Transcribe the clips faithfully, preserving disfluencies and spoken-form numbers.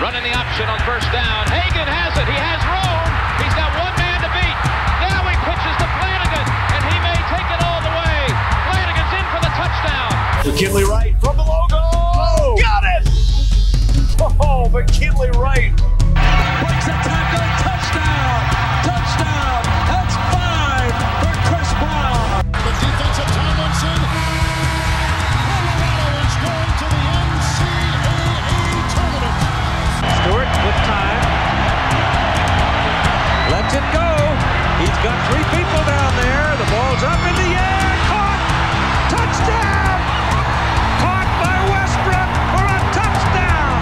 Running the option on first down. Hagan has it. He has room. He's got one man to beat. Now he pitches to Flanagan, and he may take it all the way. Flanagan's in for the touchdown. McKinley Wright from the logo. Oh, got it! Oh, McKinley Wright. Breaks a tackle. Touchdown. Touchdown. That's five for Chris Brown. The defense of Tomlinson. Colorado is going to the N C double A tournament. Stewart with time. Lets it go. He's got three people down there. The ball's up in the air. Caught. Touchdown. Caught by Westbrook for a touchdown.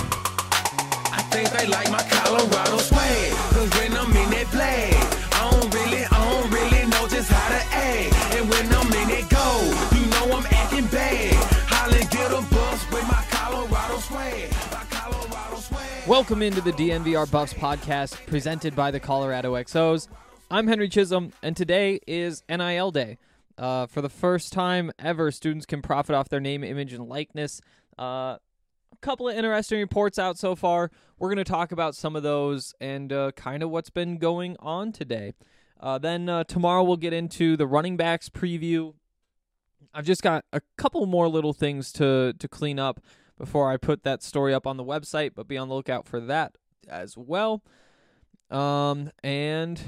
I think they like my Colorado swag. Cause when I'm in that play, I don't really, I don't really know just how to act. And when I'm in that go, you know I'm acting bad. Holly get a bus with my Colorado swag. My Colorado swag. Welcome into the D N V R Buffs podcast presented by the Colorado X Os. I'm Henry Chisholm, and today is N I L Day. Uh, for the first time ever, students can profit off their name, image, and likeness. Uh, a couple of interesting reports out so far. We're going to talk about some of those and uh, kind of what's been going on today. Uh, then uh, tomorrow we'll get into the running backs preview. I've just got a couple more little things to, to clean up before I put that story up on the website, but be on the lookout for that as well. Um, and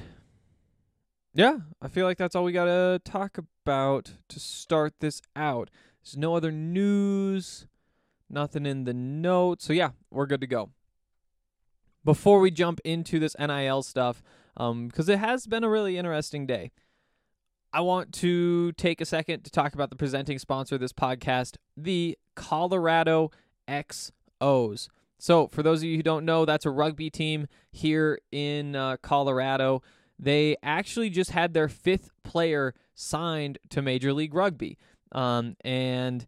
yeah, I feel like that's all we got to talk about to start this out. There's no other news, nothing in the notes. So yeah, we're good to go. Before we jump into this N I L stuff, um, because it has been a really interesting day, I want to take a second to talk about the presenting sponsor of this podcast, the Colorado X Os. So for those of you who don't know, that's a rugby team here in uh, Colorado. They actually just had their fifth player signed to Major League Rugby. Um, and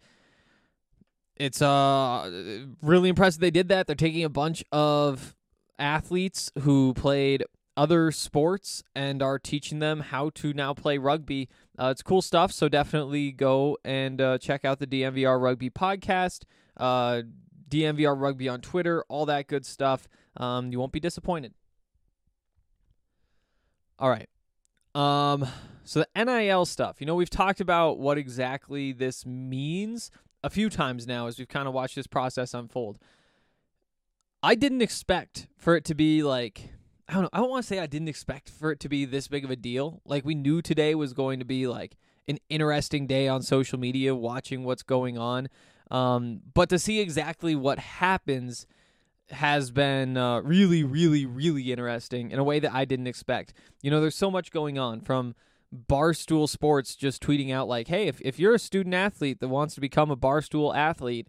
it's uh, really impressive they did that. They're taking a bunch of athletes who played other sports and are teaching them how to now play rugby. Uh, it's cool stuff, so definitely go and uh, check out the D N V R Rugby podcast, uh, D N V R Rugby on Twitter, all that good stuff. Um, you won't be disappointed. All right. Um, so the N I L stuff. You know, we've talked about what exactly this means a few times now as we've kind of watched this process unfold. I didn't expect for it to be like, I don't know, I don't want to say I didn't expect for it to be this big of a deal. Like, we knew today was going to be like an interesting day on social media, watching what's going on. Um, but to see exactly what happens has been uh, really, really, really interesting in a way that I didn't expect. You know, there's so much going on, from Barstool Sports just tweeting out like, hey, if, if you're a student athlete that wants to become a Barstool athlete,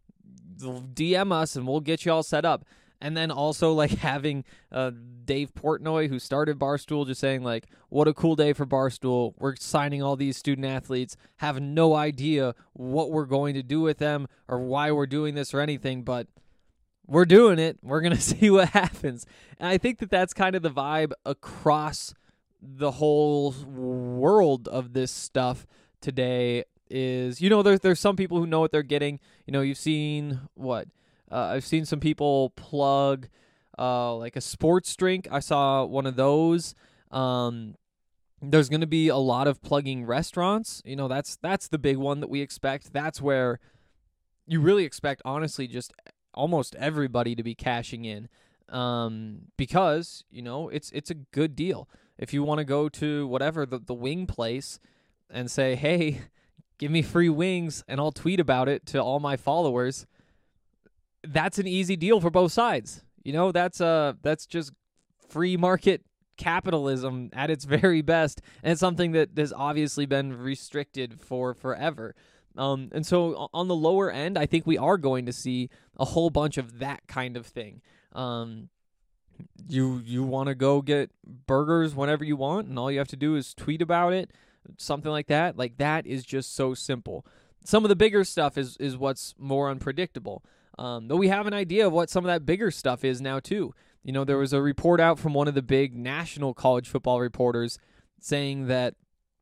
D M us and we'll get you all set up. And then also like having uh, Dave Portnoy, who started Barstool, just saying like, what a cool day for Barstool. We're signing all these student athletes, have no idea what we're going to do with them or why we're doing this or anything, but we're doing it. We're going to see what happens. And I think that that's kind of the vibe across the whole world of this stuff today is, you know, there's, there's some people who know what they're getting. You know, you've seen what? Uh, I've seen some people plug uh, like a sports drink. I saw one of those. Um, there's going to be a lot of plugging restaurants. You know, that's that's the big one that we expect. That's where you really expect, honestly, just almost everybody to be cashing in, um, because, you know, it's it's a good deal. If you want to go to whatever, the, the wing place and say, hey, give me free wings and I'll tweet about it to all my followers, that's an easy deal for both sides. You know, that's uh that's just free market capitalism at its very best, and it's something that has obviously been restricted for forever. Um, and so on the lower end, I think we are going to see a whole bunch of that kind of thing. Um, you you want to go get burgers whenever you want, and all you have to do is tweet about it, something like that. Like, that is just so simple. Some of the bigger stuff is is what's more unpredictable. Um, though we have an idea of what some of that bigger stuff is now, too. You know, there was a report out from one of the big national college football reporters saying that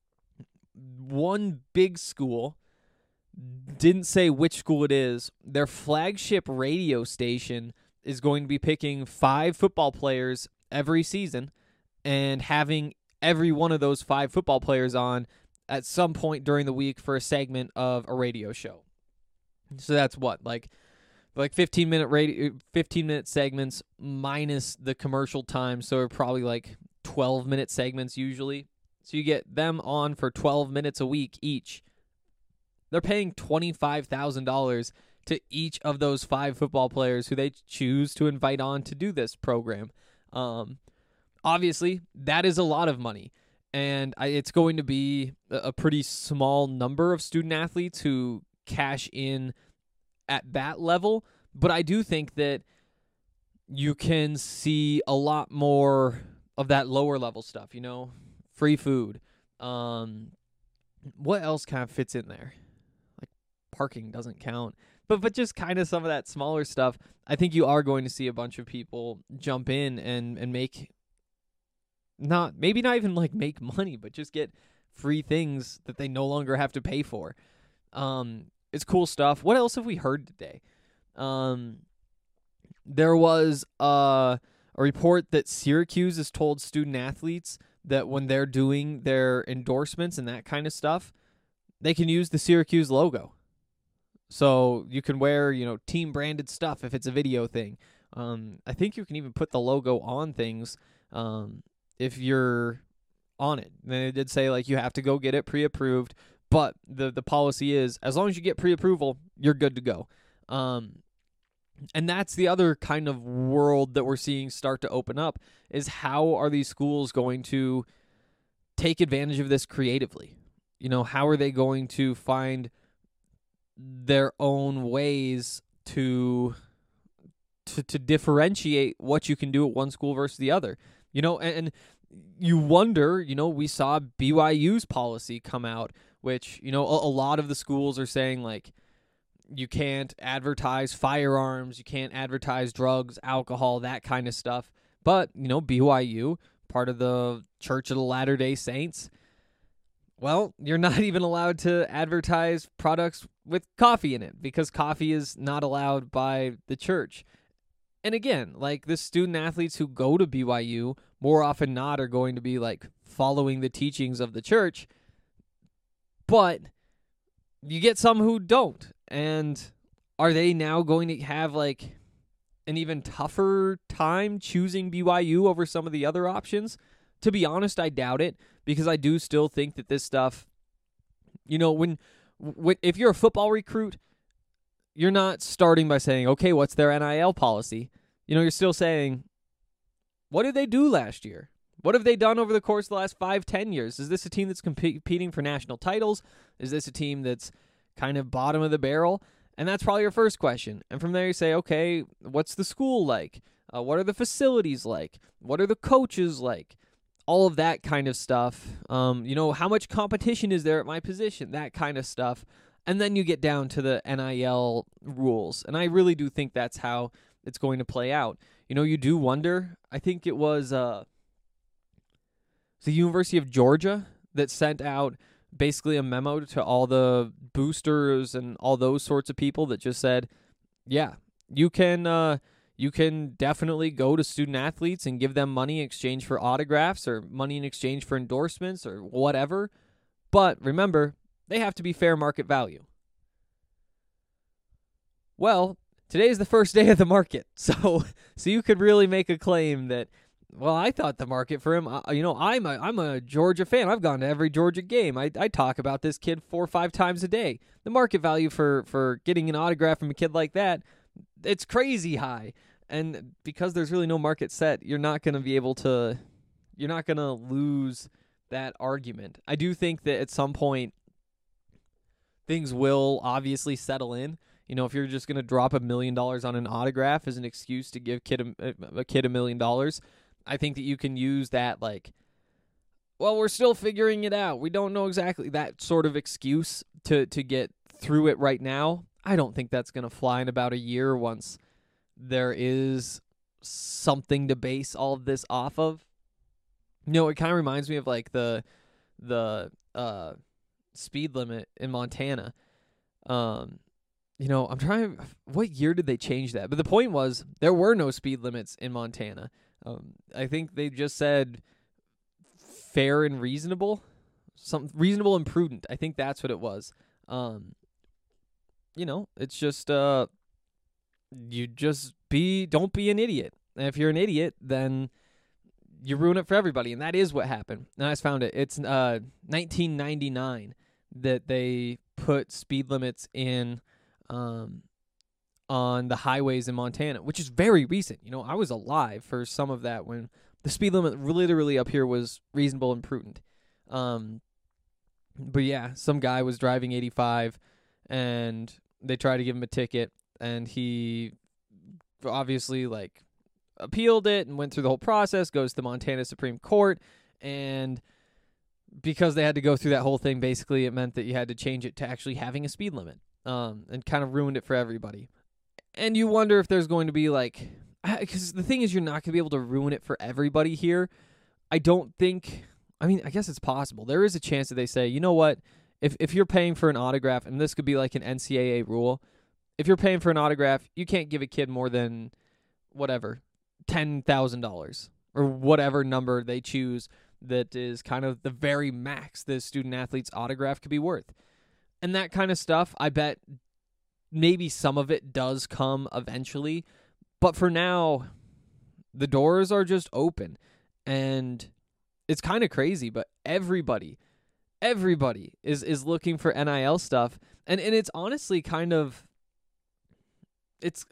one big school, didn't say which school it is, their flagship radio station is going to be picking five football players every season and having every one of those five football players on at some point during the week for a segment of a radio show. So that's what, like like fifteen minute radio fifteen minute segments minus the commercial time, so probably like twelve minute segments usually. So you get them on for twelve minutes a week each. They're paying twenty-five thousand dollars to each of those five football players who they choose to invite on to do this program. Um, obviously, that is a lot of money, and I, it's going to be a, a pretty small number of student athletes who cash in at that level, but I do think that you can see a lot more of that lower level stuff, you know, free food. Um, what else kind of fits in there? Like parking doesn't count. But but just kind of some of that smaller stuff, I think you are going to see a bunch of people jump in and, and make, not maybe not even like make money, but just get free things that they no longer have to pay for. Um, it's cool stuff. What else have we heard today? Um, there was a, a report that Syracuse has told student athletes that when they're doing their endorsements and that kind of stuff, they can use the Syracuse logo. So you can wear, you know, team branded stuff if it's a video thing. Um, I think you can even put the logo on things um, if you're on it. Then it did say like you have to go get it pre-approved, but the the policy is as long as you get pre-approval, you're good to go. Um, and that's the other kind of world that we're seeing start to open up is how are these schools going to take advantage of this creatively? You know, how are they going to find their own ways to, to to differentiate what you can do at one school versus the other? You know, and, and you wonder, you know, we saw B Y U's policy come out, which, you know, a, a lot of the schools are saying, like, you can't advertise firearms, you can't advertise drugs, alcohol, that kind of stuff. But, you know, B Y U, part of the Church of the Latter-day Saints, well, you're not even allowed to advertise products with coffee in it because coffee is not allowed by the church. And again, like the student athletes who go to B Y U more often not are going to be like following the teachings of the church, but you get some who don't. And are they now going to have like an even tougher time choosing B Y U over some of the other options? To be honest, I doubt it, because I do still think that this stuff, you know, when, when if you're a football recruit, you're not starting by saying, okay, what's their N I L policy? You know, you're still saying, what did they do last year? What have they done over the course of the last five, ten years? Is this a team that's competing for national titles? Is this a team that's kind of bottom of the barrel? And that's probably your first question. And from there you say, okay, what's the school like? Uh, what are the facilities like? What are the coaches like? All of that kind of stuff. Um, you know, how much competition is there at my position? That kind of stuff. And then you get down to the N I L rules. And I really do think that's how it's going to play out. You know, you do wonder, I think it was uh, the University of Georgia that sent out basically a memo to all the boosters and all those sorts of people that just said, yeah, you can uh, you can definitely go to student athletes and give them money in exchange for autographs or money in exchange for endorsements or whatever. But remember, they have to be fair market value. Well, today is the first day of the market. So so you could really make a claim that, well, I thought the market for him, uh, you know, I'm a, I'm a Georgia fan. I've gone to every Georgia game. I, I talk about this kid four or five times a day. The market value for, for getting an autograph from a kid like that, it's crazy high. And because there's really no market set, you're not going to be able to, you're not going to lose that argument. I do think that at some point, things will obviously settle in. You know, if you're just going to drop a million dollars on an autograph as an excuse to give kid a, a kid a million dollars, I think that you can use that like, well, we're still figuring it out. We don't know exactly, that sort of excuse to, to get through it right now. I don't think that's going to fly in about a year once there is something to base all of this off of. You know, it kind of reminds me of like the the uh, speed limit in Montana. Um, you know, I'm trying. What year did they change that? But the point was, there were no speed limits in Montana. Um, I think they just said fair and reasonable, some reasonable and prudent. I think that's what it was. Um, you know, it's just uh, you just be don't be an idiot. And if you're an idiot, then you ruin it for everybody, and that is what happened. And I just found it. It's uh nineteen ninety-nine that they put speed limits in. Um, on the highways in Montana, which is very recent. You know, I was alive for some of that when the speed limit literally up here was reasonable and prudent. Um, but yeah, some guy was driving eighty-five, and they tried to give him a ticket, and he obviously like appealed it and went through the whole process, goes to the Montana Supreme Court, and because they had to go through that whole thing, basically it meant that you had to change it to actually having a speed limit. Um, and kind of ruined it for everybody. And you wonder if there's going to be like, because the thing is, you're not going to be able to ruin it for everybody here. I don't think, I mean, I guess it's possible. There is a chance that they say, you know what, if if you're paying for an autograph, and this could be like an N C double A rule, if you're paying for an autograph, you can't give a kid more than, whatever, ten thousand dollars or whatever number they choose that is kind of the very max the student athlete's autograph could be worth. And that kind of stuff, I bet maybe some of it does come eventually. But for now, the doors are just open. And it's kind of crazy, but everybody, everybody is, is looking for N I L stuff. And, and it's honestly kind of, it's,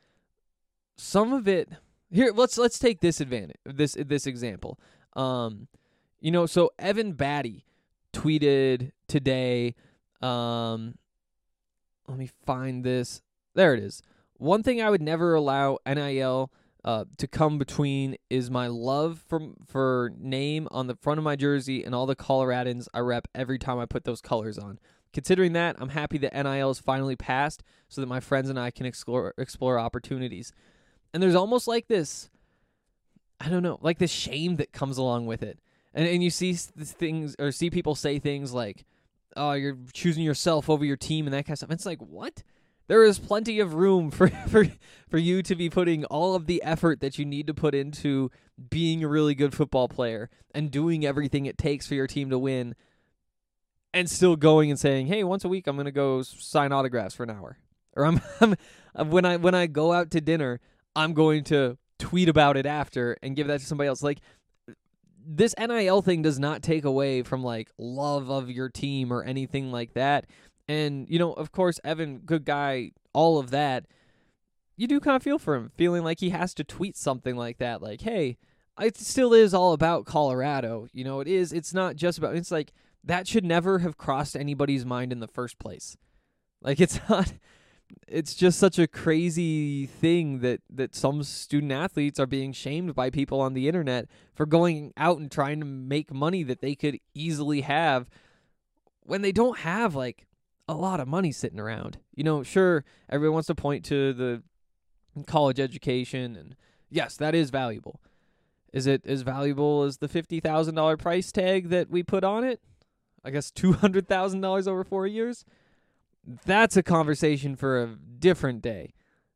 some of it, here, let's let's take this advantage, this this example. Um, you know, so Evan Batty tweeted today, Um, let me find this. There it is. One thing I would never allow N I L uh, to come between is my love for, for name on the front of my jersey and all the Coloradans I rep every time I put those colors on. Considering that, I'm happy that N I L is finally passed so that my friends and I can explore explore opportunities. And there's almost like this, I don't know, like this shame that comes along with it. And and you see things or see people say things like, oh, you're choosing yourself over your team and that kind of stuff. It's like, what? There is plenty of room for, for, for you to be putting all of the effort that you need to put into being a really good football player and doing everything it takes for your team to win and still going and saying, hey, once a week I'm going to go sign autographs for an hour. Or I'm, I'm when I when I go out to dinner, I'm going to tweet about it after and give that to somebody else. Like, this N I L thing does not take away from, like, love of your team or anything like that. And, you know, of course, Evan, good guy, all of that. You do kind of feel for him, feeling like he has to tweet something like that. Like, hey, it still is all about Colorado. You know, it is. It's not just about, it's like, that should never have crossed anybody's mind in the first place. Like, it's not, it's just such a crazy thing that, that some student athletes are being shamed by people on the internet for going out and trying to make money that they could easily have when they don't have, like, a lot of money sitting around. You know, sure, everyone wants to point to the college education, and yes, that is valuable. Is it as valuable as the fifty thousand dollars price tag that we put on it? I guess two hundred thousand dollars over four years? That's a conversation for a different day.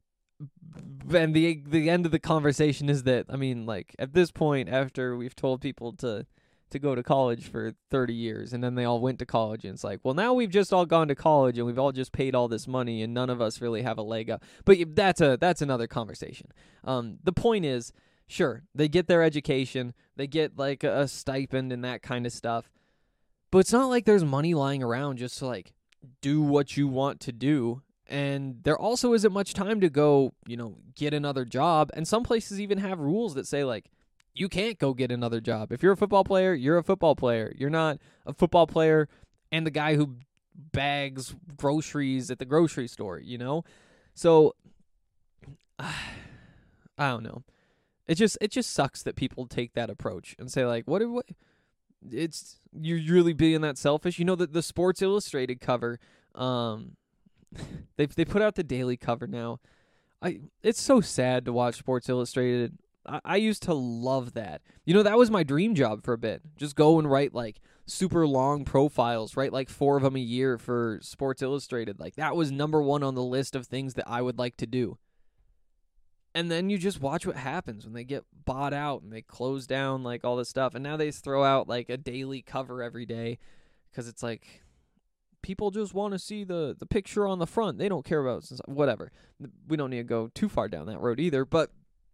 And the the end of the conversation is that, I mean, like, at this point, after we've told people to, to go to college for thirty years, and then they all went to college, and it's like, well, now we've just all gone to college, and we've all just paid all this money, and none of us really have a leg up. But that's a that's another conversation. Um, the point is, sure, they get their education, they get, like, a, a stipend and that kind of stuff, but it's not like there's money lying around just to, like, do what you want to do. And there also isn't much time to go, you know, get another job. And some places even have rules that say, like, you can't go get another job. If you're a football player, you're a football player. You're not a football player and the guy who bags groceries at the grocery store, you know? So, uh, I don't know. It just it just sucks that people take that approach and say, like, what, what it's, you're really being that selfish. You know, that the Sports Illustrated cover, um, they they put out the daily cover now. I It's so sad to watch Sports Illustrated I, I used to love that. You know, that was my dream job for a bit. Just go and write like super long profiles, write like four of them a year for Sports Illustrated. Like that was number one on the list of things that I would like to do. And then you just watch what happens when they get bought out and they close down like all this stuff. And now they just throw out like a daily cover every day because it's like people just want to see the, the picture on the front. They don't care about whatever. We don't need to go too far down that road either. But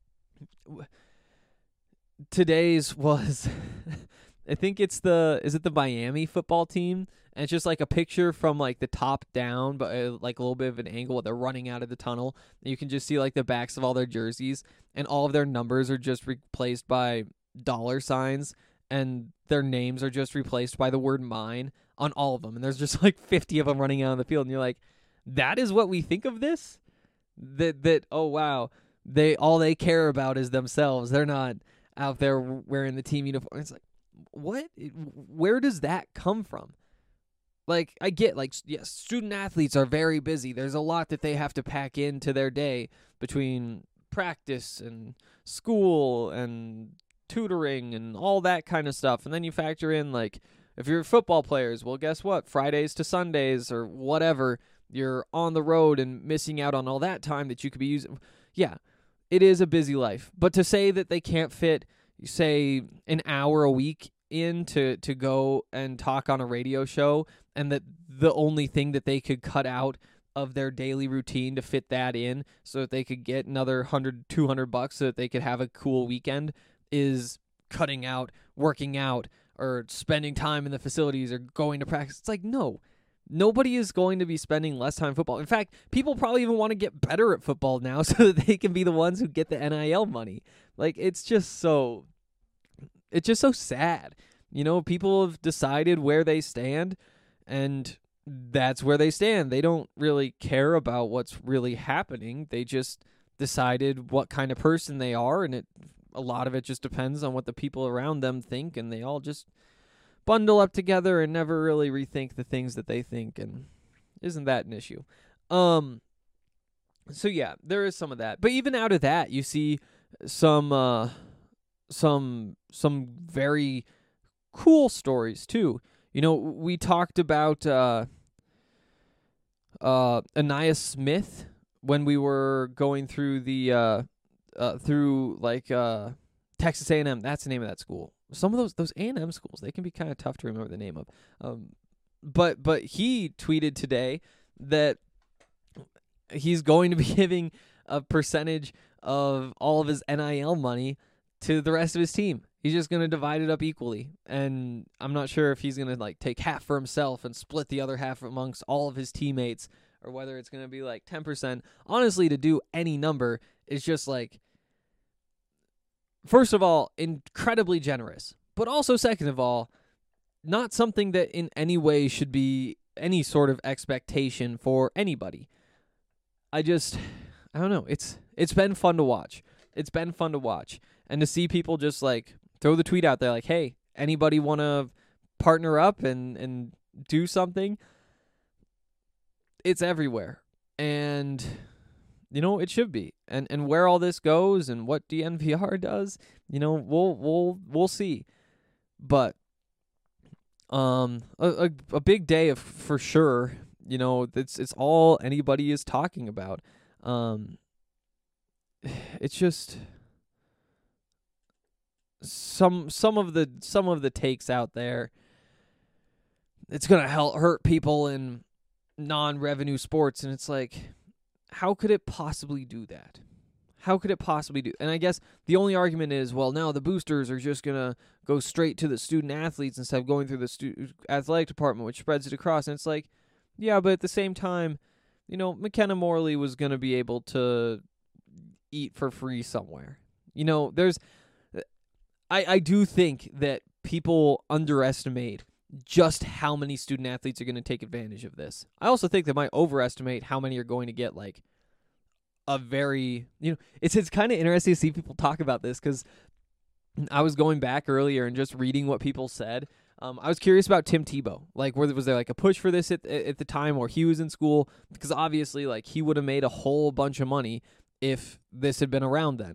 today's was, I think it's the, is it the Miami football team? And it's just like a picture from like the top down, but uh, like a little bit of an angle. They're running out of the tunnel. And you can just see like the backs of all their jerseys, and all of their numbers are just replaced by dollar signs, and their names are just replaced by the word mine on all of them. And there's just like fifty of them running out on the field. And you're like, that is what we think of this? That, that oh, wow. They all they care about is themselves. They're not out there wearing the team uniform. It's like, what? Where does that come from? Like, I get, like, yes, student athletes are very busy. There's a lot that they have to pack into their day between practice and school and tutoring and all that kind of stuff. And then you factor in, like, if you're football players, well, guess what? Fridays to Sundays or whatever, you're on the road and missing out on all that time that you could be using. Yeah, it is a busy life. But to say that they can't fit, say, an hour a week in to, to go and talk on a radio show, and that the only thing that they could cut out of their daily routine to fit that in so that they could get another one hundred, two hundred bucks so that they could have a cool weekend is cutting out working out or spending time in the facilities or going to practice. It's like, no, nobody is going to be spending less time in football. In fact, people probably even want to get better at football now so that they can be the ones who get the N I L money. Like, it's just so, it's just so sad. You know, people have decided where they stand, and that's where they stand. They don't really care about what's really happening. They just decided what kind of person they are, and it a lot of it just depends on what the people around them think, and they all just bundle up together and never really rethink the things that they think, and isn't that an issue? Um, so yeah, there is some of that. But even out of that, you see some uh, some some very cool stories too. You know, we talked about uh, uh, Anaya Smith when we were going through the uh, uh, through like uh, Texas A and M. That's the name of that school. Some of those those A and M schools, they can be kind of tough to remember the name of. Um, but but he tweeted today that he's going to be giving a percentage of all of his N I L money to the rest of his team. He's just going to divide it up equally. And I'm not sure if he's going to like take half for himself and split the other half amongst all of his teammates, or whether it's going to be like ten percent. Honestly, to do any number is just like, first of all, incredibly generous. But also, second of all, not something that in any way should be any sort of expectation for anybody. I just, I don't know. It's It's been fun to watch. It's been fun to watch. And to see people just like throw the tweet out there like, hey, anybody want to partner up and, and do something? It's everywhere. And, you know, it should be. And and where all this goes and what D N V R does, you know, we'll we'll we'll see. But um a, a, a big day of, for sure. You know, it's it's all anybody is talking about. Um it's just some some of the some of the takes out there. It's gonna help hurt people in non-revenue sports, and it's like, how could it possibly do that? How could it possibly do? And I guess the only argument is, well, now the boosters are just gonna go straight to the student athletes instead of going through the stu- athletic department, which spreads it across. And it's like, yeah, but at the same time, you know, McKenna Morley was gonna be able to eat for free somewhere. You know, there's. I, I do think that people underestimate just how many student athletes are going to take advantage of this. I also think they might overestimate how many are going to get like a very, you know, it's it's kind of interesting to see people talk about this, because I was going back earlier and just reading what people said. Um, I was curious about Tim Tebow. Like, was there like a push for this at at the time where he was in school? Because obviously, like, he would have made a whole bunch of money if this had been around then.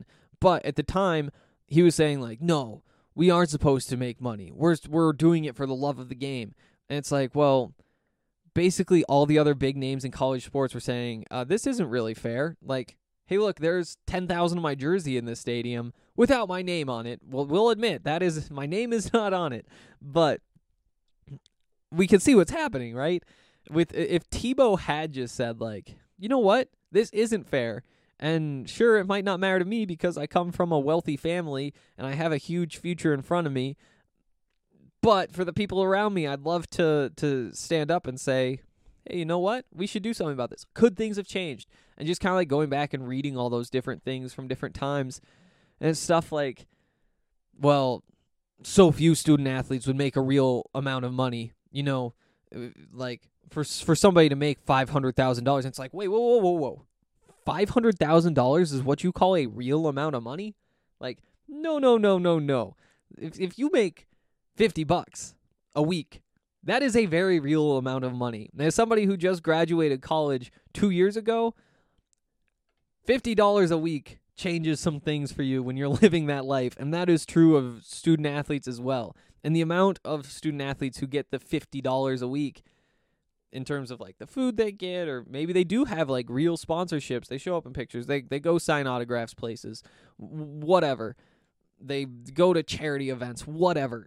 But at the time, he was saying, like, no, we aren't supposed to make money. We're, we're doing it for the love of the game. And it's like, well, basically all the other big names in college sports were saying, uh, this isn't really fair. Like, hey, look, there's ten thousand of my jersey in this stadium without my name on it. Well, we'll admit, that is, my name is not on it. But we can see what's happening, right? With if Tebow had just said, like, you know what, this isn't fair, and sure, it might not matter to me because I come from a wealthy family and I have a huge future in front of me, but for the people around me, I'd love to to stand up and say, hey, you know what, we should do something about this. Could things have changed? And just kind of like going back and reading all those different things from different times, and it's stuff like, well, so few student athletes would make a real amount of money, you know, like, For for somebody to make five hundred thousand dollars, it's like, wait, whoa, whoa, whoa, whoa. five hundred thousand dollars is what you call a real amount of money? Like, no, no, no, no, no. If if you make fifty bucks a week, that is a very real amount of money. And as somebody who just graduated college two years ago, fifty dollars a week changes some things for you when you're living that life. And that is true of student athletes as well. And the amount of student athletes who get the fifty dollars a week in terms of like the food they get, or maybe they do have like real sponsorships. They show up in pictures. They they go sign autographs places, whatever. They go to charity events, whatever.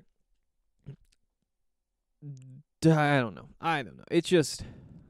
I don't know. I don't know. It's just,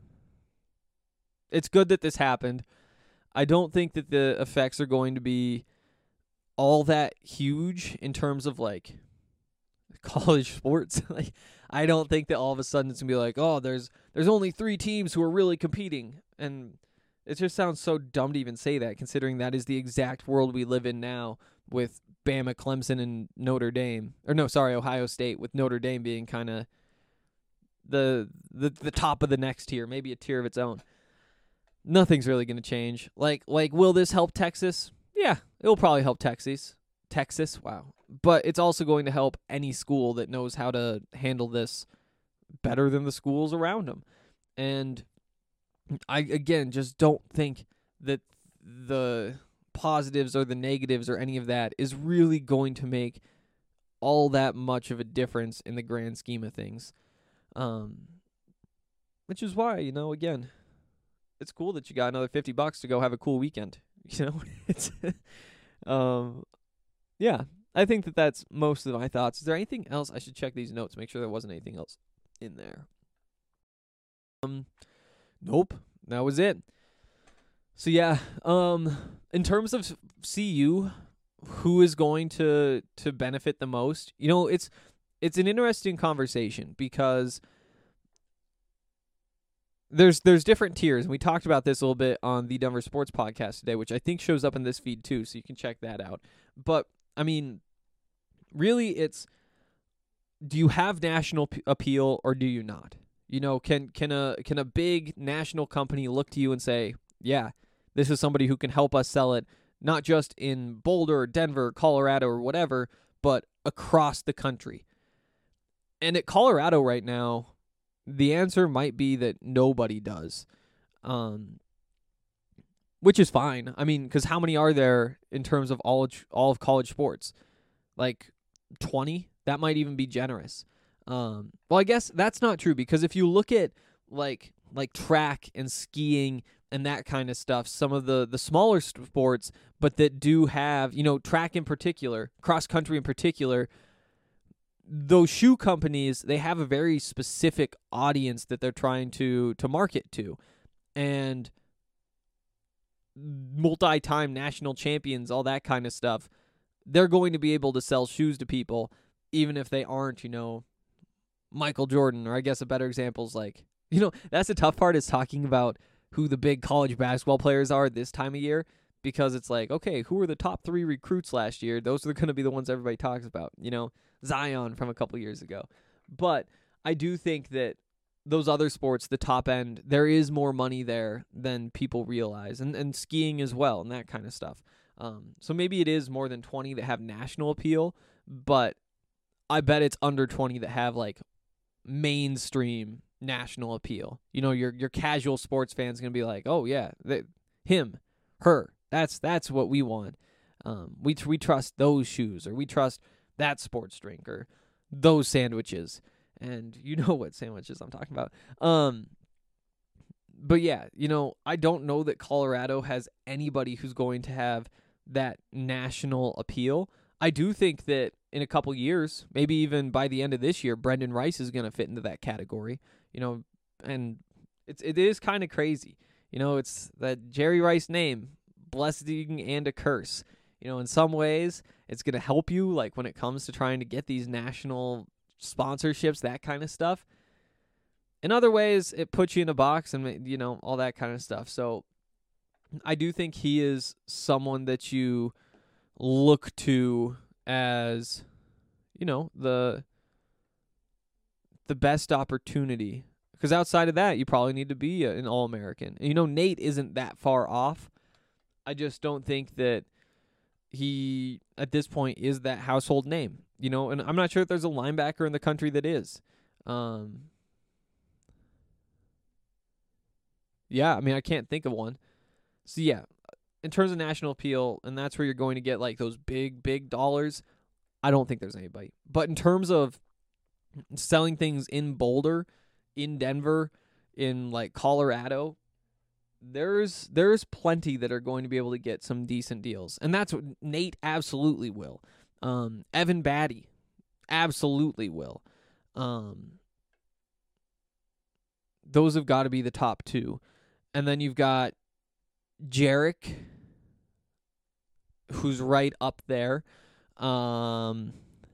it's good that this happened. I don't think that the effects are going to be all that huge in terms of like college sports. Like, I don't think that all of a sudden it's gonna be like, oh, there's there's only three teams who are really competing, and it just sounds so dumb to even say that, considering that is the exact world we live in now, with Bama, Clemson, and Notre Dame, or no, sorry, Ohio State, with Notre Dame being kind of the the the top of the next tier, maybe a tier of its own. Nothing's really gonna change. Like like, will this help Texas? Yeah, it'll probably help Texas. Texas, wow. But it's also going to help any school that knows how to handle this better than the schools around them. And I, again, just don't think that the positives or the negatives or any of that is really going to make all that much of a difference in the grand scheme of things. Um, which is why, you know, again, it's cool that you got another fifty bucks to go have a cool weekend. You know, it's, um, yeah. I think that that's most of my thoughts. Is there anything else? I should check these notes, make sure there wasn't anything else in there. Um, nope, that was it. So yeah, um, in terms of C U, who is going to to benefit the most? You know, it's it's an interesting conversation because there's there's different tiers, and we talked about this a little bit on the Denver Sports Podcast today, which I think shows up in this feed too, so you can check that out. But I mean, really, it's, do you have national p- appeal or do you not? You know, can can a can a big national company look to you and say, yeah, this is somebody who can help us sell it, not just in Boulder, Denver, Colorado, or whatever, but across the country? And at Colorado right now, the answer might be that nobody does, um, which is fine. I mean, because how many are there in terms of all all of college sports? Like twenty? That might even be generous. Um, well, I guess that's not true, because if you look at like like track and skiing and that kind of stuff, some of the, the smaller sports, but that do have, you know, track in particular, cross country in particular, those shoe companies, they have a very specific audience that they're trying to to market to. And multi-time national champions, all that kind of stuff, they're going to be able to sell shoes to people, even if they aren't, you know, Michael Jordan. Or I guess a better example is like, you know, that's the tough part, is talking about who the big college basketball players are this time of year, because it's like, okay, who were the top three recruits last year? Those are going to be the ones everybody talks about, you know, Zion from a couple years ago. But I do think that those other sports, the top end, there is more money there than people realize, and, and skiing as well, and that kind of stuff. Um, so maybe it is more than twenty that have national appeal, but I bet it's under twenty that have like mainstream national appeal. You know, your your casual sports fan's gonna be like, oh yeah, they, him, her, that's that's what we want. Um, we tr- we trust those shoes, or we trust that sports drink, or those sandwiches. And you know what sandwiches I'm talking about. Um, but yeah, you know, I don't know that Colorado has anybody who's going to have that national appeal. I do think that in a couple years, maybe even by the end of this year, Brendan Rice is going to fit into that category. You know, and it's it is kind of crazy. You know, it's that Jerry Rice name, blessing and a curse. You know, in some ways, it's going to help you, like when it comes to trying to get these national sponsorships, that kind of stuff. In other ways, it puts you in a box and, you know, all that kind of stuff. So I do think he is someone that you look to as, you know, the the best opportunity. Because outside of that, you probably need to be an All-American. And, you know, Nate isn't that far off. I just don't think that he, at this point, is that household name. You know, and I'm not sure if there's a linebacker in the country that is. Um, yeah, I mean, I can't think of one. So, yeah, in terms of national appeal, and that's where you're going to get, like, those big, big dollars, I don't think there's anybody. But in terms of selling things in Boulder, in Denver, in, like, Colorado, there's there's plenty that are going to be able to get some decent deals. And that's what Nate absolutely will. Um, Evan Batty absolutely will. Um, those have got to be the top two. And then you've got Jarek, who's right up there. Um,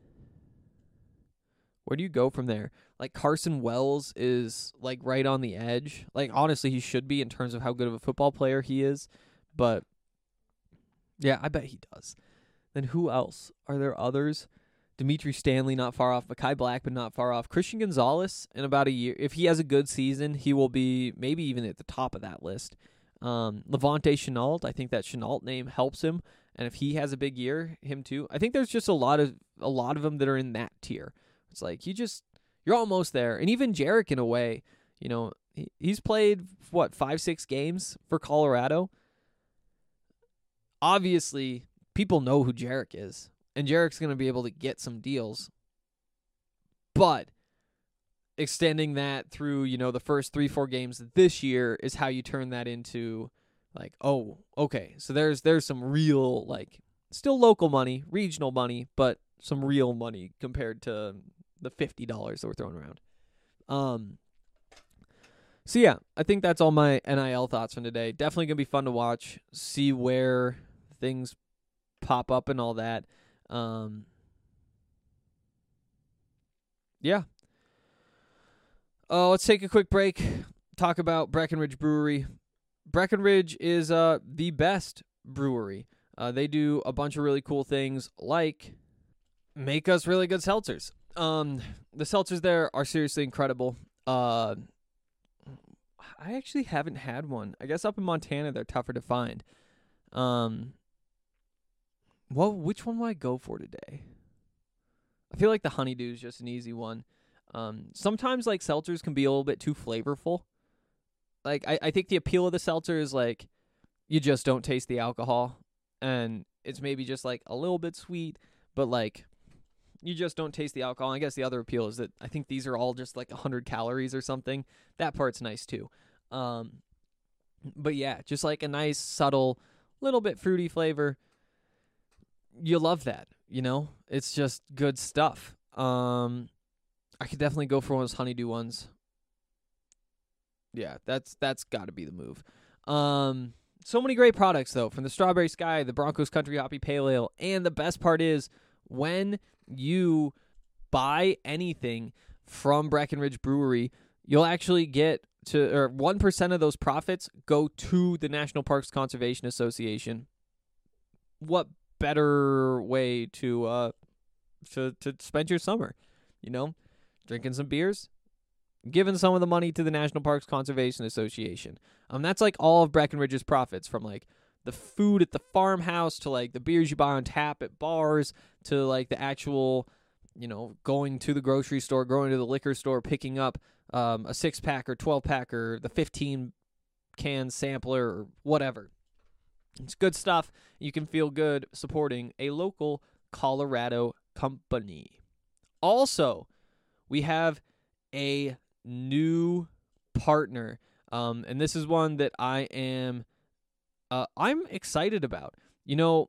where do you go from there? Like, Carson Wells is, like, right on the edge. Like, honestly, he should be in terms of how good of a football player he is. But, yeah, I bet he does. Then who else? Are there others? Dimitri Stanley, not far off. Mekhi Blackman, not far off. Christian Gonzalez, in about a year, if he has a good season, he will be maybe even at the top of that list. Um, Levante Chenault, I think that Chenault name helps him. And if he has a big year, him too. I think there's just a lot of a lot of them that are in that tier. It's like, you just... You're almost there. And even Jarek, in a way, you know, he, he's played, what, five, six games for Colorado? Obviously, people know who Jarek is. And Jarek's going to be able to get some deals. But extending that through, you know, the first three, four games this year is how you turn that into, like, oh, okay. So there's there's some real, like, still local money, regional money, but some real money compared to the fifty dollars that we're throwing around. Um. So, yeah, I think that's all my N I L thoughts from today. Definitely going to be fun to watch, see where things pop up and all that. Um. Yeah. Uh, let's take a quick break, talk about Breckenridge Brewery. Breckenridge is uh the best brewery. Uh, they do a bunch of really cool things, like make us really good seltzers. Um, the seltzers there are seriously incredible. Uh, I actually haven't had one. I guess up in Montana they're tougher to find. Um, well, which one will I go for today? I feel like the Honeydew is just an easy one. Um, sometimes like seltzers can be a little bit too flavorful. Like I, I think the appeal of the seltzer is like you just don't taste the alcohol, and it's maybe just like a little bit sweet, but like you just don't taste the alcohol. I guess the other appeal is that I think these are all just like one hundred calories or something. That part's nice too. Um, but yeah, just like a nice, subtle, little bit fruity flavor. You love that, you know? It's just good stuff. Um, I could definitely go for one of those Honeydew ones. Yeah, that's that's got to be the move. Um, so many great products, though, from the Strawberry Sky, the Broncos Country Hoppy Pale Ale, and the best part is when you buy anything from Breckenridge Brewery, you'll actually get to, or one percent of those profits go to the National Parks Conservation Association. What better way to uh to to spend your summer, you know? Drinking some beers, giving some of the money to the National Parks Conservation Association. Um, that's like all of Breckenridge's profits, from like the food at the farmhouse to like the beers you buy on tap at bars to like the actual, you know, going to the grocery store, going to the liquor store, picking up um, a six pack or twelve pack or the fifteen can sampler or whatever. It's good stuff. You can feel good supporting a local Colorado company. Also, we have a new partner, um, and this is one that I am uh, I'm excited about. You know,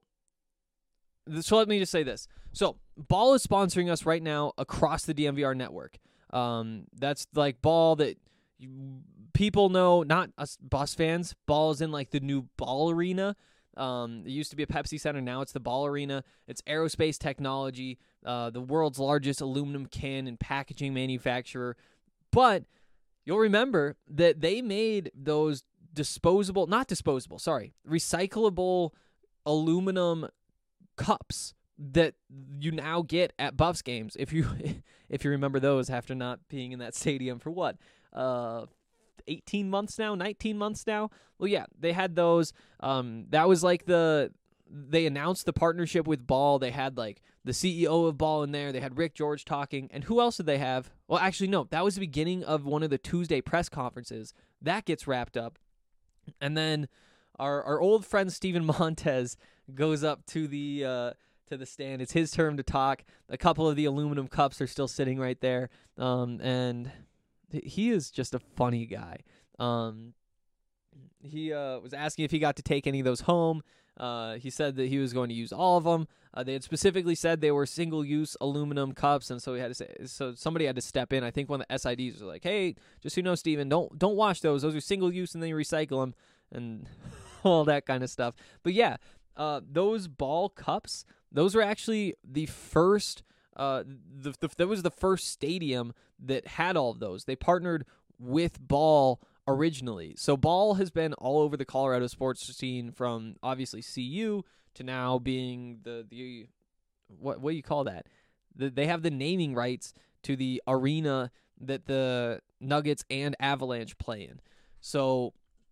so let me just say this. So, Ball is sponsoring us right now across the D M V R network. Um, that's like Ball that you, people know, not us Bus fans. Ball is in like the new Ball Arena. Um, it used to be a Pepsi Center. Now it's the Ball Arena. It's aerospace technology, uh, the world's largest aluminum can and packaging manufacturer. But you'll remember that they made those disposable, not disposable, sorry, recyclable aluminum cups that you now get at Buffs games. If you if you remember those after not being in that stadium for what, uh, eighteen months now, nineteen months now. Well, yeah, they had those. Um, that was like the they announced the partnership with Ball. They had like the C E O of Ball in there. They had Rick George talking, and who else did they have? Well, actually, no, that was the beginning of one of the Tuesday press conferences. That gets wrapped up, and then our our old friend Steven Montez goes up to the uh, to the stand. It's his turn to talk. A couple of the aluminum cups are still sitting right there, um, and he is just a funny guy. Um, he uh, was asking if he got to take any of those home. Uh, he said that he was going to use all of them. Uh, they had specifically said they were single-use aluminum cups, and so he had to say. So somebody had to step in. I think one of the S I Ds was like, "Hey, just so you know, Steven, don't don't wash those. Those are single-use, and then you recycle them, and all that kind of stuff." But yeah, uh, those Ball cups, those were actually the first. Uh, the, the that was the first stadium that had all of those. They partnered with Ball originally. So Ball has been all over the Colorado sports scene, from obviously C U to now being the the what what do you call that? The, they have the naming rights to the arena that the Nuggets and Avalanche play in. So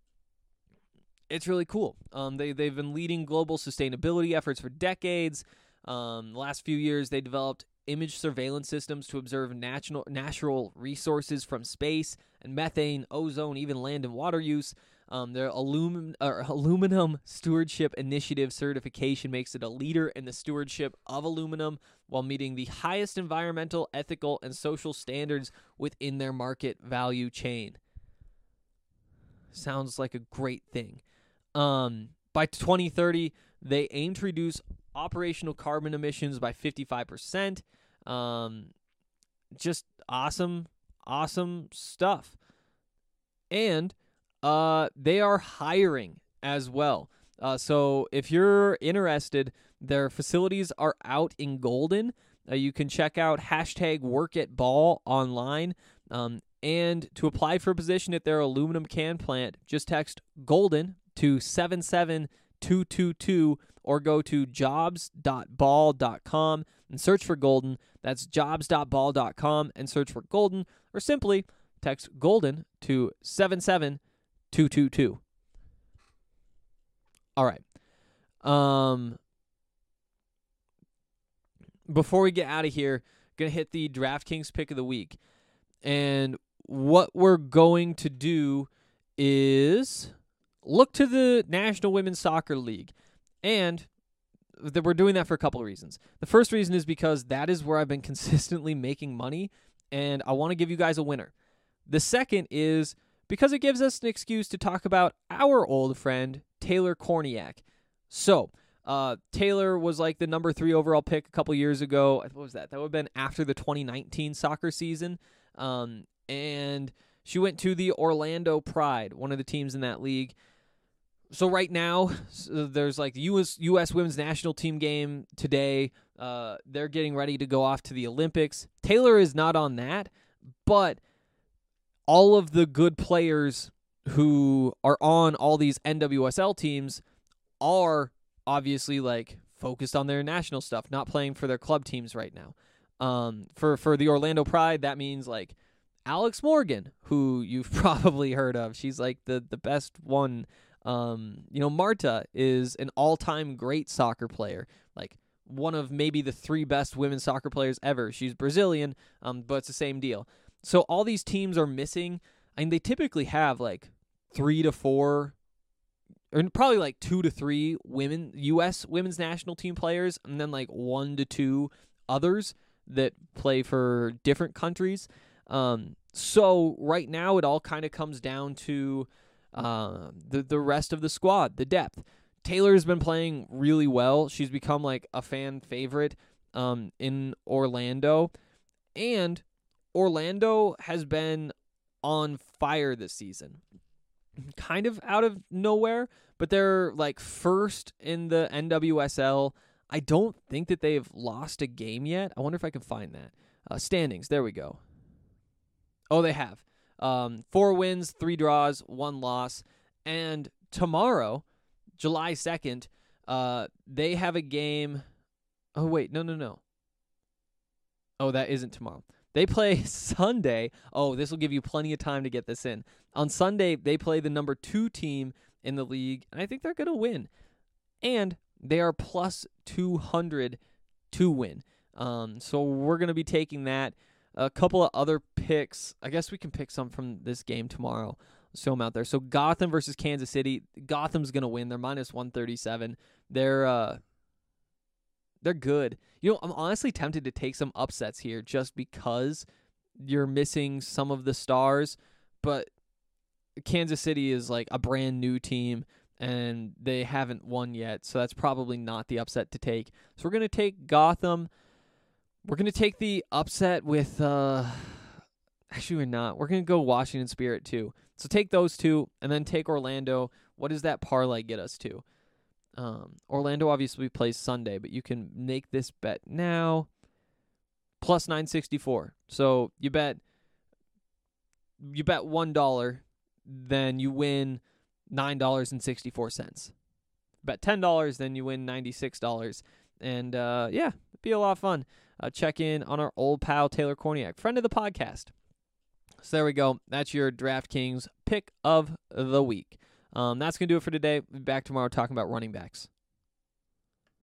it's really cool. Um, they they've been leading global sustainability efforts for decades. Um, the last few years, they developed image surveillance systems to observe natural natural resources from space and methane, ozone, even land and water use. Um, their aluminum, uh, aluminum stewardship initiative certification makes it a leader in the stewardship of aluminum while meeting the highest environmental, ethical, and social standards within their market value chain. Sounds like a great thing. Um, by twenty thirty, they aim to reduce operational carbon emissions by fifty-five percent. Um, just awesome, awesome stuff. And uh, they are hiring as well. Uh, so if you're interested, their facilities are out in Golden. Uh, you can check out hashtag work at Ball online. Um, and to apply for a position at their aluminum can plant, just text Golden to seven seven two two two or go to jobs dot ball dot com and search for Golden. That's jobs dot ball dot com and search for Golden, or simply text Golden to seven seven two two two. All right. Um, before we get out of here, going to hit the DraftKings pick of the week. And what we're going to do is look to the National Women's Soccer League. And that we're doing that for a couple of reasons. The first reason is because that is where I've been consistently making money, and I want to give you guys a winner. The second is because it gives us an excuse to talk about our old friend, Taylor Korniak. So, uh, Taylor was like the number three overall pick a couple years ago. What was that? That would have been after the twenty nineteen soccer season. Um, and she went to the Orlando Pride, one of the teams in that league. So right now, so there's like the U S U S women's national team game today. Uh, they're getting ready to go off to the Olympics. Taylor is not on that, but all of the good players who are on all these N W S L teams are obviously like focused on their national stuff, not playing for their club teams right now. Um, for, for the Orlando Pride, that means like Alex Morgan, who you've probably heard of. She's like the, the best one. Um, you know, Marta is an all-time great soccer player, like one of maybe the three best women's soccer players ever. She's Brazilian, um, but it's the same deal. So all these teams are missing. I mean, they typically have like three to four or probably like two to three women U S women's national team players, and then like one to two others that play for different countries. Um, so right now it all kind of comes down to uh, the the rest of the squad, the depth. Taylor's been playing really well. She's become like a fan favorite um, in Orlando, and Orlando has been on fire this season. Kind of out of nowhere, but they're like first in the N W S L. I don't think that they've lost a game yet. I wonder if I can find that. Uh, standings, there we go. Oh, they have. Um, four wins, three draws, one loss. And tomorrow, July second, uh, they have a game. Oh, wait, no, no, no. Oh, that isn't tomorrow. They play Sunday. Oh, this will give you plenty of time to get this in. On Sunday, they play the number two team in the league, and I think they're going to win. And they are plus two hundred to win. Um, so we're going to be taking that. A couple of other picks. I guess we can pick some from this game tomorrow. Let's throw them out there. So Gotham versus Kansas City. Gotham's going to win. They're minus one thirty-seven. They're uh, they're good. You know, I'm honestly tempted to take some upsets here just because you're missing some of the stars. But Kansas City is like a brand new team, and they haven't won yet, so that's probably not the upset to take. So we're going to take Gotham. We're going to take the upset with, uh, actually we're not. We're going to go Washington Spirit too. So take those two, and then take Orlando. What does that parlay get us to? Um, Orlando obviously plays Sunday, but you can make this bet now. Plus nine sixty-four. So you bet, you bet one dollar, then you win nine dollars and sixty-four cents. Bet ten dollars, then you win ninety-six dollars. And, uh, yeah, it'd be a lot of fun. Uh, check in on our old pal, Taylor Korniak, friend of the podcast. So there we go. That's your DraftKings pick of the week. Um, that's going to do it for today. We'll be back tomorrow talking about running backs.